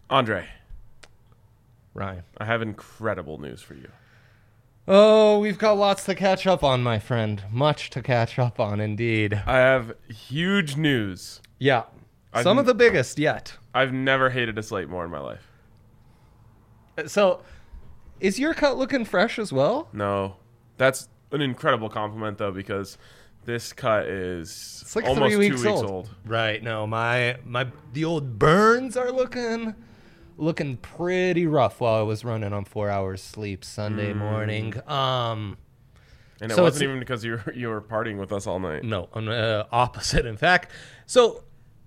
Andre, Ryan. I have incredible news for you. Oh, we've got lots to catch up on, my friend. Much to catch up on, indeed. I have huge news. Yeah. Some of the biggest yet. I've never hated a slate more in my life. So, is your cut looking fresh as well? No. That's an incredible compliment, though, because this cut is It's like almost 3 weeks 2 weeks old. Right. No, the old burns are looking pretty rough while I was running on 4 hours sleep Sunday morning. And it So wasn't it's- even because you were partying with us all night. No, opposite, in fact. So,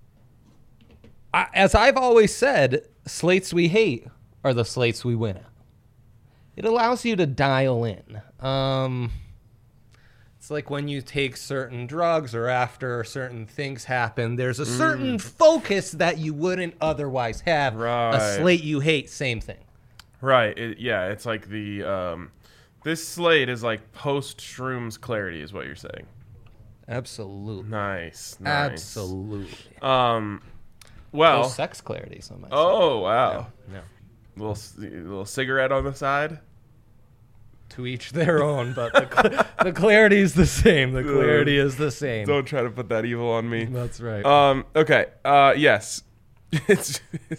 as I've always said, slates we hate are the slates we win at. It allows you to dial in. It's like when you take certain drugs or after certain things happen, there's a certain focus that you wouldn't otherwise have. Right. A slate you hate, same thing. Right. It's like the this slate is like post shrooms clarity is what you're saying. Absolutely. Nice. Absolutely. Well. Sex clarity, some might say. Oh wow. No. Little cigarette on the side. To each their own, but the clarity is the same. The clarity is the same. Don't try to put that evil on me. That's right. Okay. Yes. it's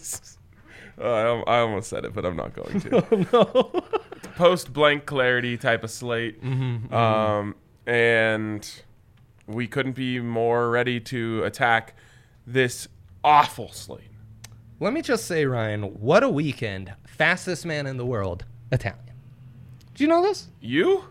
I almost said it, but I'm not going to. Oh, no. Post blank clarity type of slate. And we couldn't be more ready to attack this awful slate. Let me just say, Ryan, what a weekend. Fastest man in the world, Italian. Do you know this? You?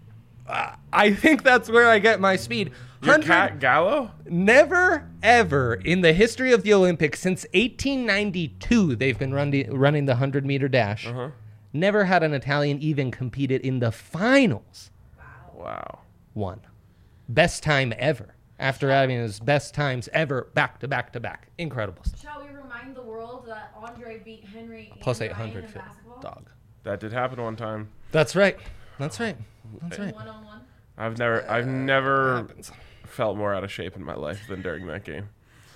I think that's where I get my speed. Your cat Gallo? Never, ever in the history of the Olympics, since 1892, they've been running the 100-meter dash. Never had an Italian even competed in the finals. Wow. Won. Best time ever. After having his best times ever, back to back to back. Incredible stuff. Shall we remind the world that Andre beat Henry Plus and Ryan 800 in fit basketball? dog. That did happen one time. That's right. That's right. That's right. One-on-one. I've never Happens. felt more out of shape in my life than during that game.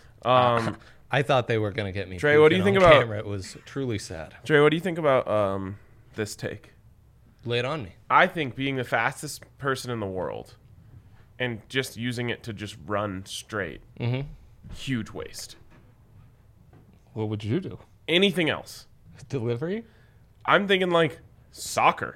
I thought they were going to get me. Trey, what do you puking think on about- camera. It was truly sad. Dre, what do you think about this take? Lay it on me. I think being the fastest person in the world and just using it to just run straight, huge waste. What would you do? Anything else? Delivery? I'm thinking like soccer,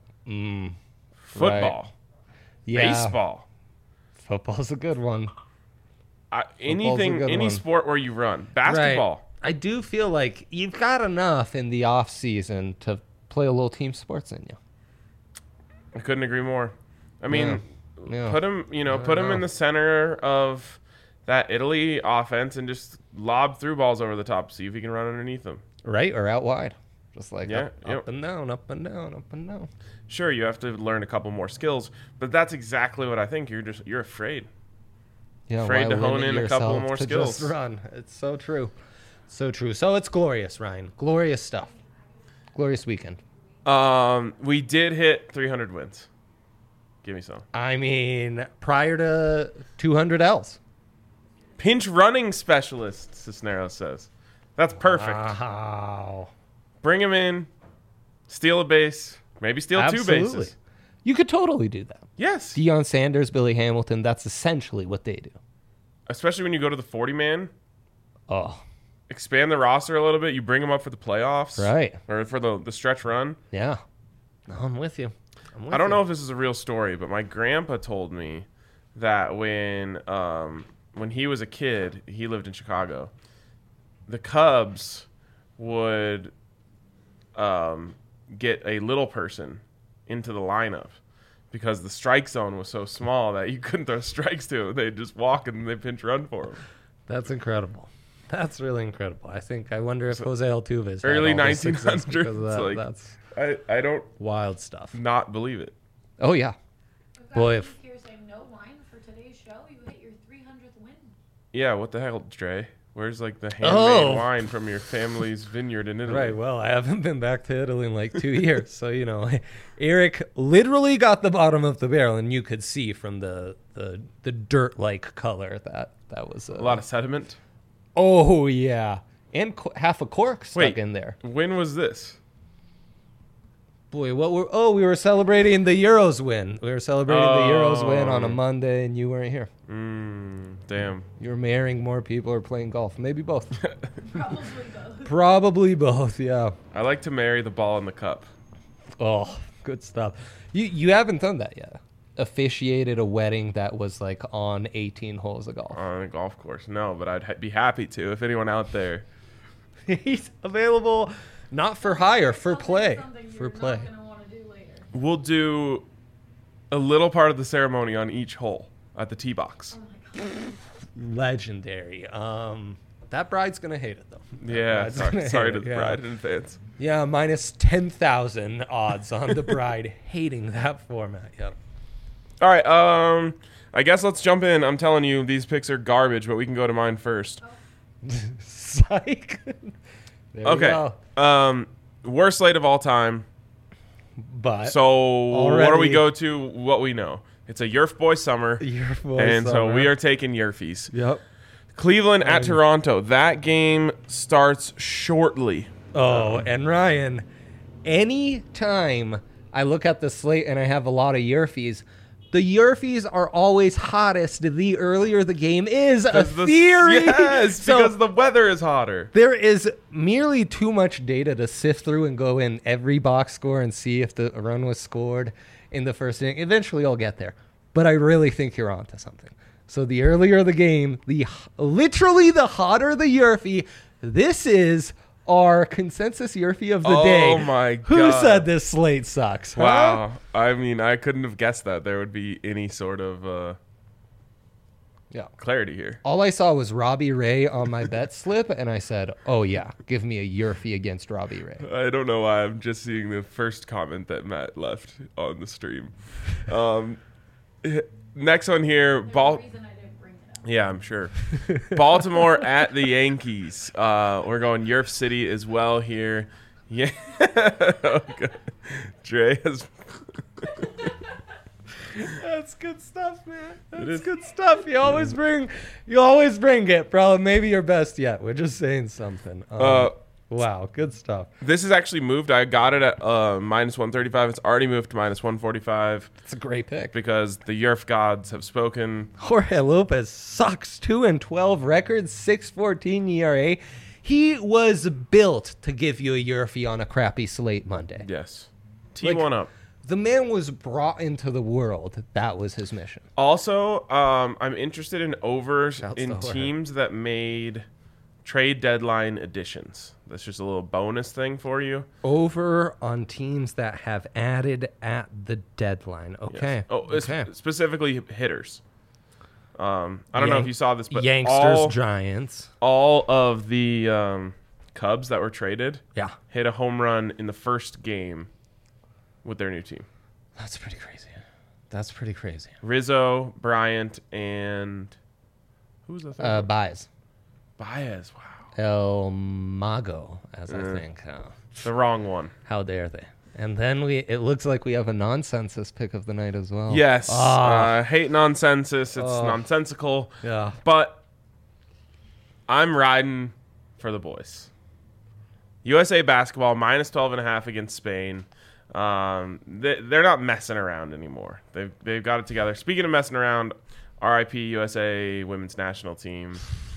football, Yeah. baseball, Football's a good one. anything, good any one. sport where you run. Basketball. Right. I do feel like you've got enough in the off season to play a little team sports in you. I couldn't agree more. I mean, Yeah. put him in the center of that Italy offense and just lob through balls over the top. See if he can run underneath them. Right or out wide. Just like Yeah, up yep. and down, up and down, up and down. Sure, you have to learn a couple more skills, but that's exactly what I think. You're afraid. Yeah, Afraid why to hone limit in a couple yourself more to skills. Just run. It's so true. So true. So it's glorious, Ryan. Glorious stuff. Glorious weekend. We did hit 300 wins. Give me some. I mean, prior to 200 Ls. Pinch running specialist, Cisneros says. That's perfect. Wow. Bring him in, steal a base, maybe steal two bases. You could totally do that. Yes. Deion Sanders, Billy Hamilton, that's essentially what they do. Especially when you go to the 40-man. Oh, Expand the roster a little bit. You bring them up for the playoffs. right. Or for the stretch run. Yeah. No, I'm with you. I don't know if this is a real story, but my grandpa told me that when he was a kid, he lived in Chicago, the Cubs would get a little person into the lineup because the strike zone was so small that you couldn't throw strikes to him. They'd just walk and they pinch run for him. That's incredible. That's really incredible. I wonder if Jose Altuve is Early had all this success 1900s, because of that. like- That's I don't wild stuff. not believe it. Oh yeah. We've got Boy, Keith if- here saying no wine for today's show. You hit your 300th win. Yeah, what the hell, Dre? Where's like the handmade Oh. wine from your family's vineyard in Italy? Right. Well, I haven't been back to Italy in like 2 years, so Eric literally got the bottom of the barrel, and you could see from the dirt-like color that was A lot of sediment. Oh yeah, and half a cork stuck Wait. in there. When was this? Boy, we were celebrating the Euros win. We were celebrating the Euros win on a Monday, and you weren't here. Damn. You were marrying more people or playing golf. Maybe both. Probably both. Probably both, yeah. I like to marry the ball in the cup. Oh, good stuff. You haven't done that yet. Officiated a wedding that was like on 18 holes of golf. On a golf course. No, but I'd be happy to if anyone out there. He's available not for hire, for play. Something For you're play. not gonna want to do later. We'll do a little part of the ceremony on each hole at the tee box. Oh my god. Legendary. That bride's gonna hate it though. That Yeah, bride's gonna sorry hate to it, the yeah. bride in advance. Yeah, minus 10,000 odds on the bride hating that format. Yep. All right, I guess let's jump in. I'm telling you, these picks are garbage, but we can go to mine first. Psych. There we Okay. go. Worst slate of all time. But So what do we already- go to? What we know. It's a Yerf Boy summer. your voice And so summer. we are taking Yerfies. Yep. Cleveland at Toronto. That game starts shortly. Oh, and Ryan, any time I look at the slate and I have a lot of Yerfies, the Yerfies are always hottest the earlier the game is. A theory. Yes, So because the weather is hotter. there is merely too much data to sift through and go in every box score and see if the run was scored in the first inning. Eventually, I'll get there, but I really think you're onto something. So the earlier the game, literally the hotter the Yerfie. This is our consensus Yerfie of the day. Oh my Who God. said this slate sucks? huh? Wow. I mean, I couldn't have guessed that there would be any sort of Yeah. clarity here. All I saw was Robbie Ray on my bet slip, and I said, "Oh yeah, give me a Yerfie against Robbie Ray." I don't know why I'm just seeing the first comment that Matt left on the stream. Next one here, There's a ball. reason I didn't bring it up. Yeah, I'm sure. Baltimore at the Yankees. We're going Yerf City as well here. Yeah. Oh, God. Dre has. That's good stuff, man. That's is. good stuff. You always bring it, bro. Maybe your best yet. We're just saying something. Wow, good stuff. This has actually moved. I got it at minus 135. It's already moved to minus 145 It's a great pick. because the Yerf gods have spoken. Jorge Lopez sucks. 2-12 record, 6.14 ERA. He was built to give you a Yerfie on a crappy slate Monday. Yes. Tee Like- one up. The man was brought into the world. That was his mission. Also, I'm interested in overs Shouts in to Jorge. teams that made trade deadline additions. That's just a little bonus thing for you. Over on teams that have added at the deadline. Okay. Yes. Oh, okay. Specifically hitters. I don't know if you saw this, but Yanksters, Giants. all of the Cubs that were traded Yeah. hit a home run in the first game with their new team. That's pretty crazy. That's pretty crazy. Rizzo, Bryant, and who's the third? Baez. Baez. Wow. El Mago, as I Mm. think. The wrong one. How dare they? And then it looks like we have a nonsensus pick of the night as well. Yes. Ah. Hate nonsensus. It's Oh. nonsensical. Yeah. But I'm riding for the boys. USA basketball minus 12.5 against Spain. They're not messing around anymore. They've got it together. Speaking of messing around, RIP USA women's national team.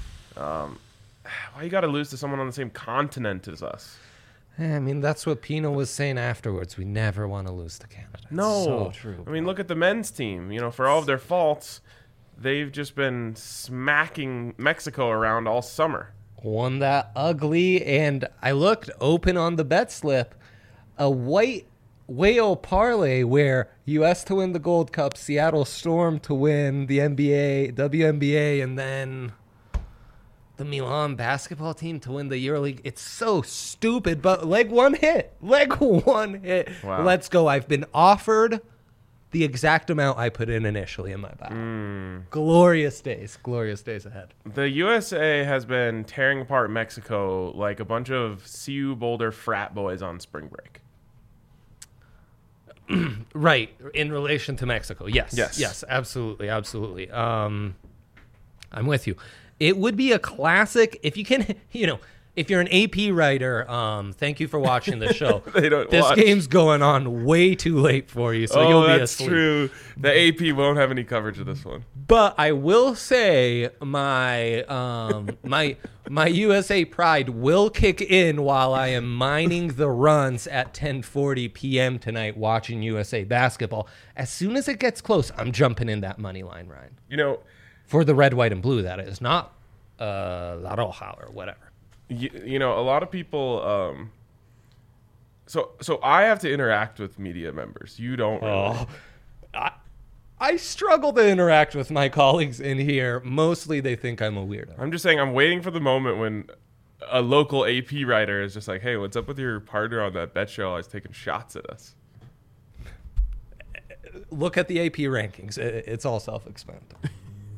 Why you got to lose to someone on the same continent as us? I mean, that's what Pino was saying afterwards. We never want to lose to Canada. It's No. so true. I mean, look at the men's team. You know, for all of their faults, they've just been smacking Mexico around all summer. Won that ugly, and I looked open on the bet slip. A white whale parlay where U.S. to win the Gold Cup, Seattle Storm to win the NBA, WNBA, and then the Milan basketball team to win the EuroLeague. It's so stupid, but leg one hit. Wow. Let's go. I've been offered the exact amount I put in initially in my battle. Glorious days ahead. The USA has been tearing apart Mexico like a bunch of CU Boulder frat boys on spring break. Right, in relation to Mexico. Yes, absolutely. I'm with you. It would be a classic if you can, if you're an AP writer, thank you for watching the show. They don't This watch. game's going on way too late for you, so you'll be that's asleep. true. The AP won't have any coverage of this one. But I will say my my USA pride will kick in while I am mining the runs at 10:40 p.m. tonight watching USA basketball. As soon as it gets close, I'm jumping in that money line, Ryan. You know, For the red, white, and blue, that is, not La Roja or whatever. you know, a lot of people. So I have to interact with media members. You don't. Really. I struggle to interact with my colleagues in here. Mostly they think I'm a weirdo. I'm just saying, I'm waiting for the moment when a local AP writer is just like, "Hey, what's up with your partner on that bet show? I was taking shots at us." Look at the AP rankings. It's all self-explanatory.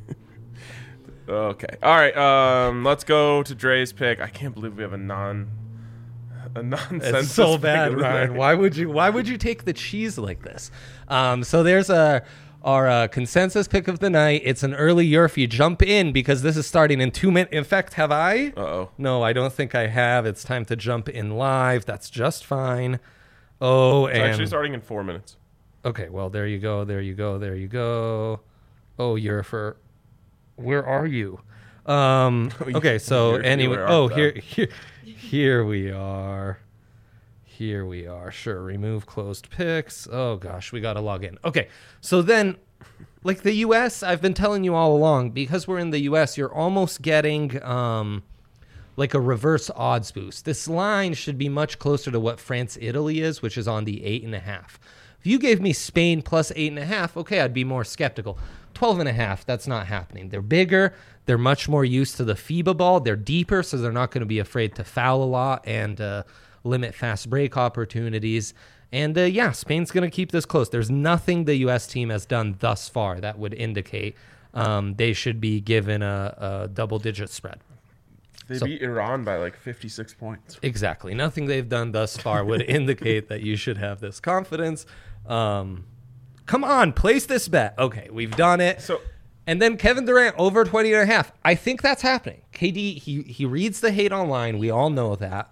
Okay. All right. Let's go to Dre's pick. I can't believe we have a nonsense. It's so pick bad, of the Ryan. night. Why would you take the cheese like this? So there's our consensus pick of the night. It's an early Yurfie. Jump in because this is starting in 2 minutes. In fact, have I? Uh-oh. No, I don't think I have. It's time to jump in live. That's just fine. Oh, It's and actually starting in 4 minutes. okay. Well, there you go. There you go. There you go. Oh, Yurfer, where are you? Okay. So Yurfie, anyway. where art Oh, thou? here we are. Here we are. Sure. Remove closed picks. Oh, gosh. We got to log in. Okay. So then, like the U.S., I've been telling you all along, because we're in the U.S., you're almost getting like a reverse odds boost. This line should be much closer to what France-Italy is, which is on the 8.5. If you gave me Spain plus 8.5, okay, I'd be more skeptical. 12.5, that's not happening. They're bigger. They're much more used to the FIBA ball. They're deeper, so they're not going to be afraid to foul a lot and limit fast break opportunities. And yeah, Spain's going to keep this close. There's nothing the U.S. team has done thus far that would indicate they should be given a double-digit spread. They beat Iran by like 56 points. Exactly. Nothing they've done thus far would indicate that you should have this confidence. Come on, place this bet. Okay, we've done it. So, And then Kevin Durant over 20.5. I think that's happening. KD, he reads the hate online. We all know that.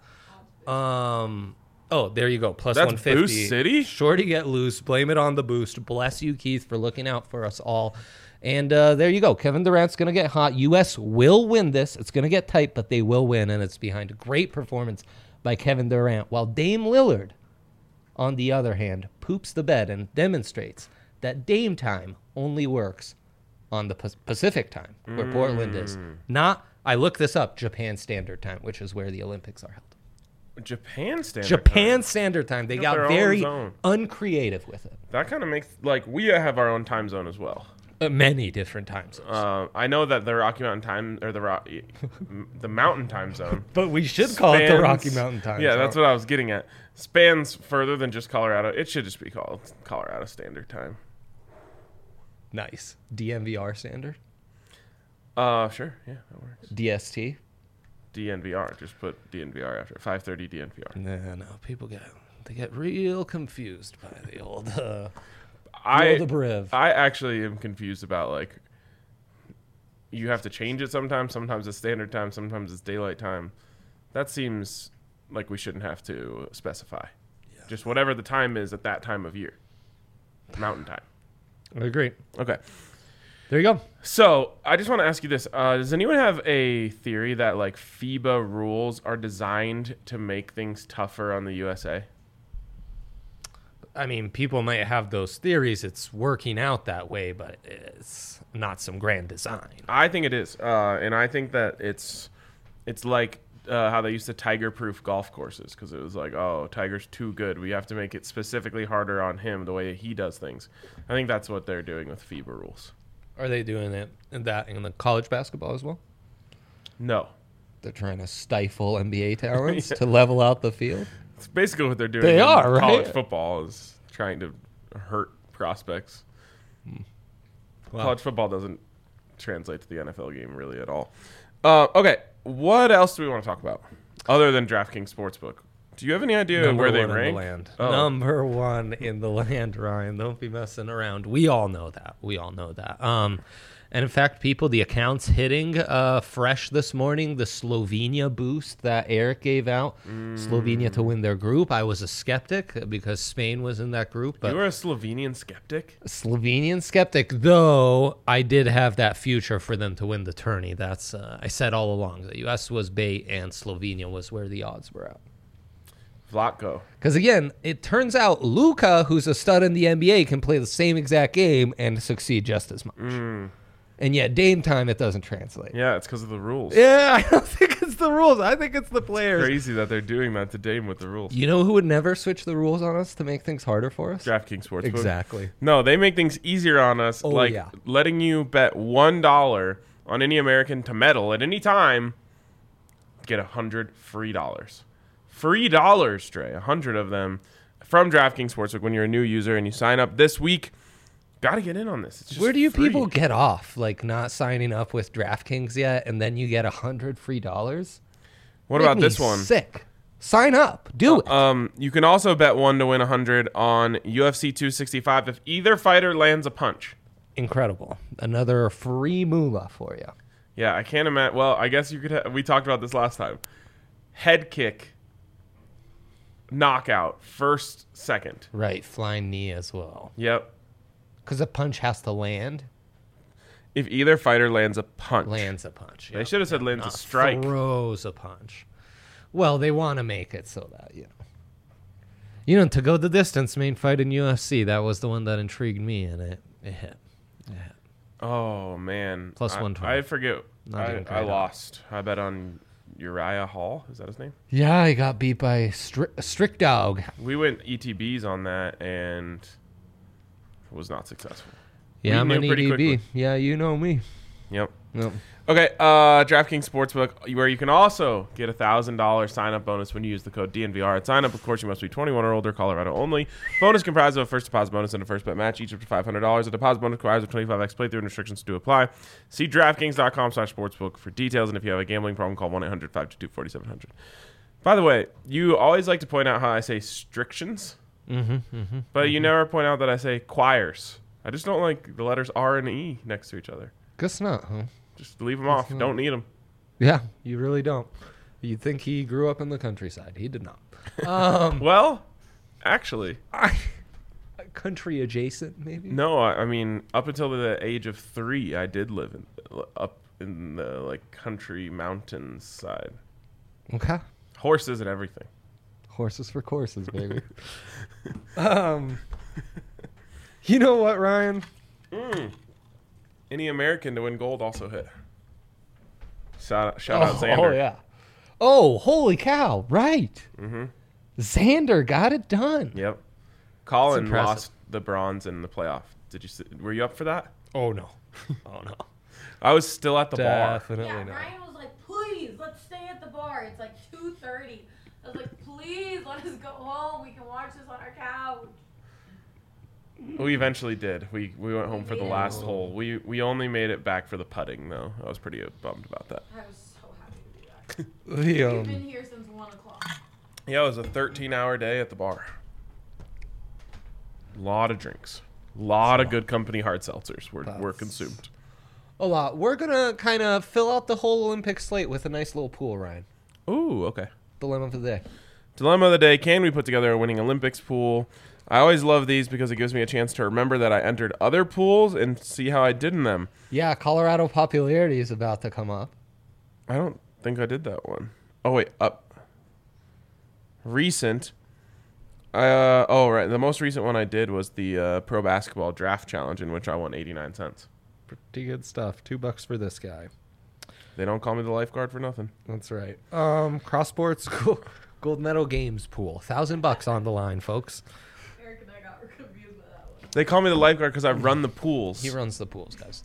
Oh, there you go. Plus That's 150. Boost City? Shorty get loose. Blame it on the boost. Bless you, Keith, for looking out for us all. And there you go. Kevin Durant's going to get hot. U.S. will win this. It's going to get tight, but they will win. And it's behind a great performance by Kevin Durant. While Dame Lillard, on the other hand, poops the bed and demonstrates that Dame time only works on the Pacific time, where Portland is. Not, I looked this up, Japan Standard Time, which is where the Olympics are held. Japan standard. Japan time. Standard Time. They They got got their own very zone. uncreative with it. That kind of makes, like, we have our own time zone as well. Many different time zones. I know that the Rocky Mountain time, or the Mountain time zone. But we should call it the spans- Rocky Mountain Time Yeah, Zone. that's what I was getting at. Spans further than just Colorado. It should just be called Colorado Standard Time. Nice. DMVR Standard? Sure. Yeah, that works. DST? DNVR. Just put DNVR after 5:30 DNVR. No. People get real confused by the old I abbrev. I actually am confused about, like, you have to change it sometimes. Sometimes it's standard time. Sometimes it's daylight time. That seems like we shouldn't have to specify. Yeah. Just whatever the time is at that time of year. Mountain time. I agree. Okay. There you go. So I just want to ask you this: does anyone have a theory that, like, FIBA rules are designed to make things tougher on the USA? I mean, people might have those theories. It's working out that way, but it's not some grand design. I think it is, and I think that it's like how they used to tiger-proof golf courses, because it was like, oh, Tiger's too good. We have to make it specifically harder on him the way he does things. I think that's what they're doing with FIBA rules. Are they doing it in the college basketball as well? No, They're trying to stifle NBA talents to level out the field. it's basically what they're doing. They in are, right? College football is trying to hurt prospects. Wow. College football doesn't translate to the NFL game really at all. Okay, what else do we want to talk about other than DraftKings Sportsbook? Do you have any idea Number where they one in rank? the land. Oh. Number one in the land, Ryan. Don't be messing around. We all know that. And in fact, people, the accounts hitting fresh this morning, the Slovenia boost that Eric gave out, Slovenia to win their group. I was a skeptic because Spain was in that group. But You were a Slovenian skeptic? Slovenian skeptic, though I did have that future for them to win the tourney. That's I said all along that U.S. was bait and Slovenia was where the odds were at. Vlatko. Because again, it turns out Luka, who's a stud in the NBA, can play the same exact game and succeed just as much. And yet, Dame time, it doesn't translate. Yeah, it's because of the rules. Yeah, I don't think it's the rules. I think it's the players. Crazy that they're doing that to Dame with the rules. You know who would never switch the rules on us to make things harder for us? DraftKings Sportsbook. Exactly. No, they make things easier on us, Oh, like yeah. letting you bet $1 on any American to medal at any time, get $100 free dollars. Free dollars, Dre. 100 of them from DraftKings Sportsbook when you're a new user and you sign up this week. Got to get in on this. It's just Where do you free. people get off, like not signing up with DraftKings yet, and then you get $100 free dollars? What Make about me this one? Sick. Sign up. Do it. You can also bet 1 to win 100 on UFC 265 if either fighter lands a punch. Incredible. Another free moolah for you. Yeah, I can't imagine. Well, I guess you could. We talked about this last time. Head kick, knockout, first, second. Right. Flying knee as well. Yep. Because a punch has to land. If either fighter lands a punch. Lands a punch. They Yep. should have said lands a Not strike. Throws a punch. Well, they want to make it so that, to go the distance, main fight in UFC, that was the one that intrigued me, and it hit. Oh, man. Plus I- 120. I forget. Not even I quite lost. I bet on Uriah Hall. Is that his name? Yeah, I got beat by Strict Dog. We went ETBs on that and was not successful. Yeah, I'm knew an pretty EDB. quickly. Yeah, you know me. Yep. Yep. Okay, DraftKings Sportsbook, where you can also get a $1,000 sign-up bonus when you use the code DNVR. At sign-up, of course, you must be 21 or older, Colorado only. Bonus comprised of a first deposit bonus and a first bet match, each up to $500. A deposit bonus requires a 25x playthrough and restrictions do apply. See DraftKings.com/sportsbook for details, and if you have a gambling problem, call 1-800-522-4700. By the way, you always like to point out how I say strictions, but you never point out that I say choirs. I just don't like the letters R and E next to each other. Guess not, huh? Just leave them off. Don't need them. Yeah, you really don't. You'd think he grew up in the countryside. He did not. Well, actually, Country adjacent, maybe? no. I mean, up until the age of 3, I did live up in the country mountains side. Okay. Horses and everything. Horses for courses, baby. You know what, Ryan? Any American to win gold also hit. Shout out Xander. Oh, yeah. Oh, holy cow. Right. Xander got it done. Yep. Colin impressive. lost the bronze in the playoff. Were you up for that? Oh, no. Oh, no. I was still at the bar. Definitely Yeah, not. Ryan was like, please, let's stay at the bar. It's like 2:30. I was like, please, let us go home. We can watch this on our couch. We eventually did. We went home for the made it last home. hole. We only made it back for the putting, though. I was pretty bummed about that. I was so happy to do that. The, We've been here since 1 o'clock. Yeah, it was a 13-hour day at the bar. Lot of drinks. Lot of good company hard seltzers were consumed. a lot. We're going to kind of fill out the whole Olympic slate with a nice little pool, Ryan. Ooh, okay. Dilemma of the day. Dilemma of the day, can we put together a winning Olympics pool? I always love these because it gives me a chance to remember that I entered other pools and see how I did in them. Yeah, Colorado popularity is about to come up. I don't think I did that one. Oh, wait, up. Recent. Right. The most recent one I did was the Pro Basketball Draft Challenge, in which I won 89 cents. Pretty good stuff. $2 for this guy. They don't call me the lifeguard for nothing. That's right. Cross sports gold medal games pool. $1,000 on the line, folks. Eric and I got confused by that one. They call me the lifeguard because I run the pools. He runs the pools, guys.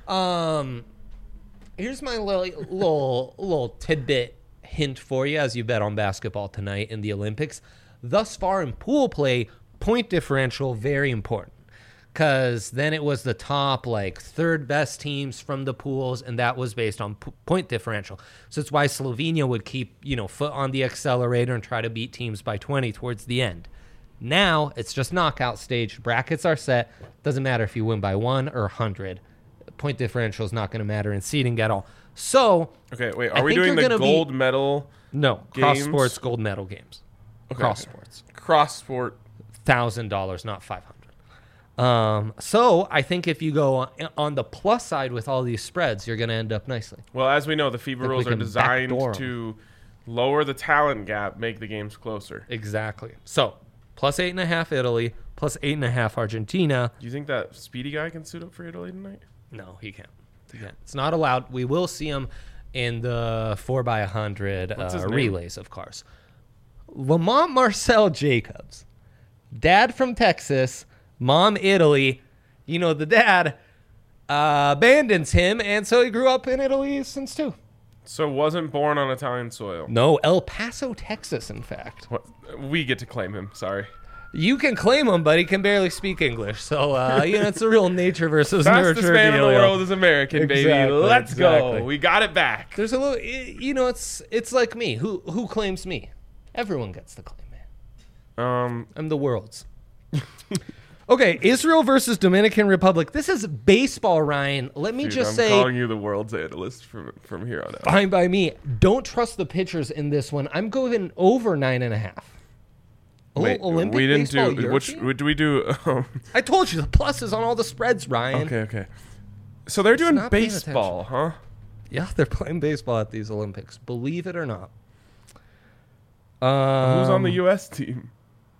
Here's my little tidbit hint for you as you bet on basketball tonight in the Olympics. Thus far in pool play, point differential, very important. Because then it was the top, third best teams from the pools, and that was based on point differential. So it's why Slovenia would keep, foot on the accelerator and try to beat teams by 20 towards the end. Now, it's just knockout stage. Brackets are set. Doesn't matter if you win by 1 or 100. point differential is not going to matter in seeding at all. So, Okay, wait. I Are we think doing you're the gonna be- gold medal no, cross Games? sports gold medal games. Okay. Cross sports. cross sport? $1,000, not $500. So I think if you go on the plus side with all these spreads, you're going to end up nicely. Well, as we know, the FIBA we rules are can designed backdoor 'em. to lower the talent gap, make the games closer. Exactly. So plus 8.5 Italy, plus 8.5 Argentina. Do you think that speedy guy can suit up for Italy tonight? No, he can't. It's not allowed. We will see him in the 4x100 What's his name? relays of cars. Lamont Marcel Jacobs, dad from Texas, mom Italy. You know, the dad abandons him, and so he grew up in Italy since too. So wasn't born on Italian soil. No, El Paso, Texas, in fact. What? We get to claim him. Sorry. You can claim him, but he can barely speak English. So, it's a real nature versus Fastest nurture man in the dealio. world is American, baby. Exactly, Let's exactly. go. We got it back. There's a little, it's like me. Who claims me? Everyone gets to claim me. I'm the world's. Okay, Israel versus Dominican Republic. This is baseball, Ryan. Let me Dude, just I'm say, calling you the world's analyst from here on out. fine by me. Don't trust the pitchers in this one. I'm going over 9.5. Wait, Olympic we didn't baseball, do European? which do we do? I told you the plus is on all the spreads, Ryan. Okay. So they're doing not paying baseball, huh? Yeah, they're playing baseball at these Olympics. Believe it or not. Who's on the U.S. team?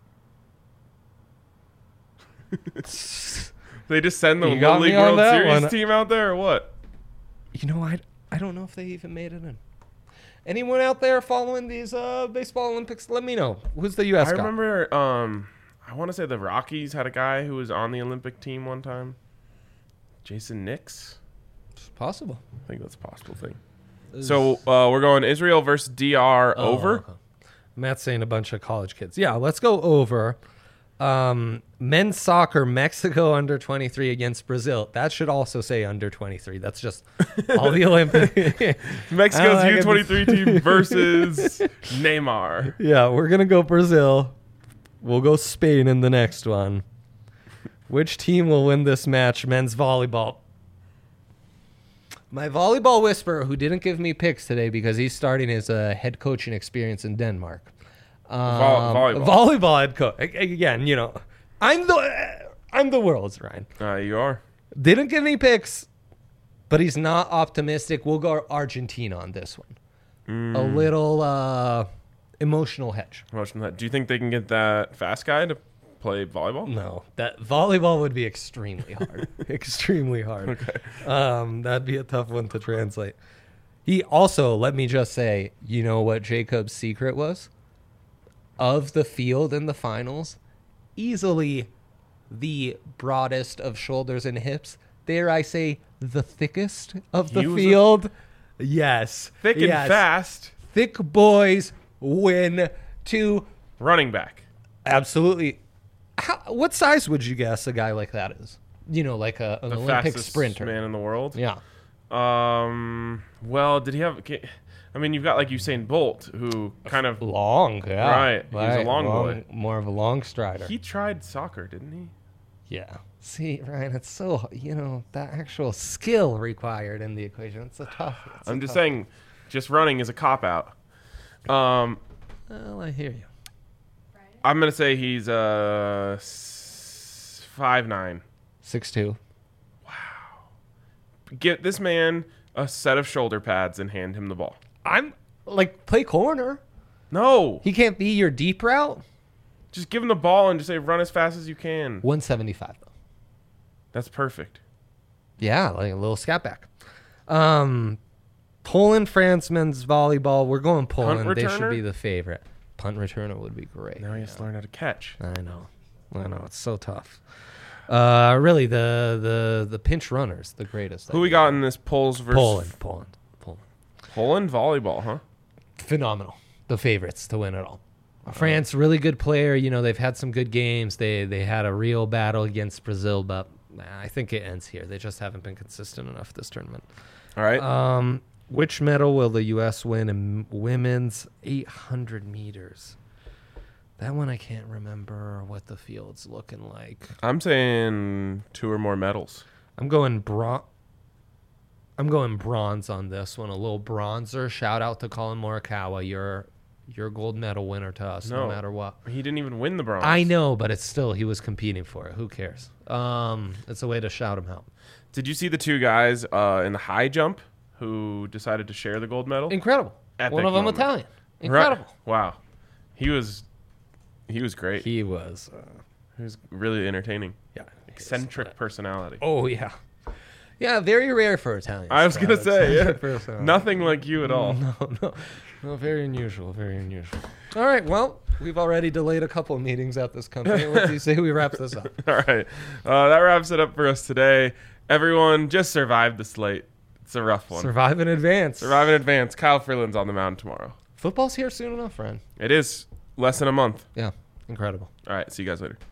They just send the You Little got League me on World that Series one. team out there, or what? You know, I don't know if they even made it in. Anyone out there following these baseball Olympics? Let me know. Who's the U.S. I got? remember. I want to say the Rockies had a guy who was on the Olympic team one time. Jason Nix. It's possible. I think that's a possible thing. So we're going Israel versus DR over. Okay. Matt's saying a bunch of college kids. Yeah, let's go over. Men's soccer, Mexico under 23 against Brazil. That should also say under 23. That's just all the Olympic. Mexico's I like U23 team versus Neymar. Yeah, we're going to go Brazil. We'll go Spain in the next one. Which team will win this match? Men's volleyball. My volleyball whisperer, who didn't give me picks today because he's starting his head coaching experience in Denmark. Volleyball. Volleyball head coach. Again, I'm the world's, Ryan. You are. Didn't give me picks, but he's not optimistic. We'll go Argentina on this one. A little emotional hedge. Do you think they can get that fast guy to play volleyball? No, that volleyball would be extremely hard. Extremely hard. Okay. That'd be a tough one to translate. He also, let me just say, you know what Jacob's secret was? Of the field in the finals, easily the broadest of shoulders and hips. Dare I say, the thickest of the He was field? Yes. Thick and Yes. fast. Thick boys win to Running back. absolutely. What size would you guess a guy like that is? Like an The Olympic fastest sprinter. man in the world. Yeah. Well, did he have? I mean, you've got like Usain Bolt, who kind of Long, yeah. Right, he's a long boy. More of a long strider. he tried soccer, didn't he? Yeah. See, Ryan, it's so, that actual skill required in the equation. It's a tough. I'm just saying, just running is a cop out. Well, I hear you. I'm gonna say he's 5'9". 6'2". Get this man a set of shoulder pads and hand him the ball. I'm play corner. No, He can't be your deep route. just give him the ball and just say run as fast as you can. 175 though. That's perfect. Yeah, like a little scat back. Poland, France men's volleyball. We're going Poland. They should returner? be the favorite. Punt returner would be great. Now he has to learn how to catch. I know. It's so tough. Really, the pinch runners, the greatest. Who we got in this Poles versus Poland. Poland volleyball, huh? Phenomenal. The favorites to win it all. France, really good player. They've had some good games. They had a real battle against Brazil, but I think it ends here. They just haven't been consistent enough this tournament. All right. Which medal will the U.S. win in women's 800 meters? That one I can't remember what the field's looking like. I'm saying 2 or more medals. I'm going bronze. I'm going bronze on this one. A little bronzer. Shout out to Colin Morikawa. You're a gold medal winner to us, no matter what. He didn't even win the bronze. I know, but it's still, he was competing for it. Who cares? It's a way to shout him out. Did you see the two guys in the high jump who decided to share the gold medal? Incredible. Epic One of them moment. Italian. Incredible. Right. Wow. He was great. He was. He was really entertaining. Yeah. Eccentric personality. Oh, yeah. Yeah, very rare for Italians. I was going to say, yeah. Personality. Nothing like you at all. No, very unusual, very unusual. All right, well, we've already delayed a couple of meetings at this company. What do you say we wrap this up? All right. That wraps it up for us today. Everyone, just survive the slate. It's a rough one. Survive in advance. Survive in advance. Kyle Freeland's on the mound tomorrow. Football's here soon enough, friend. It is less than a month. Yeah, incredible. All right. See you guys later.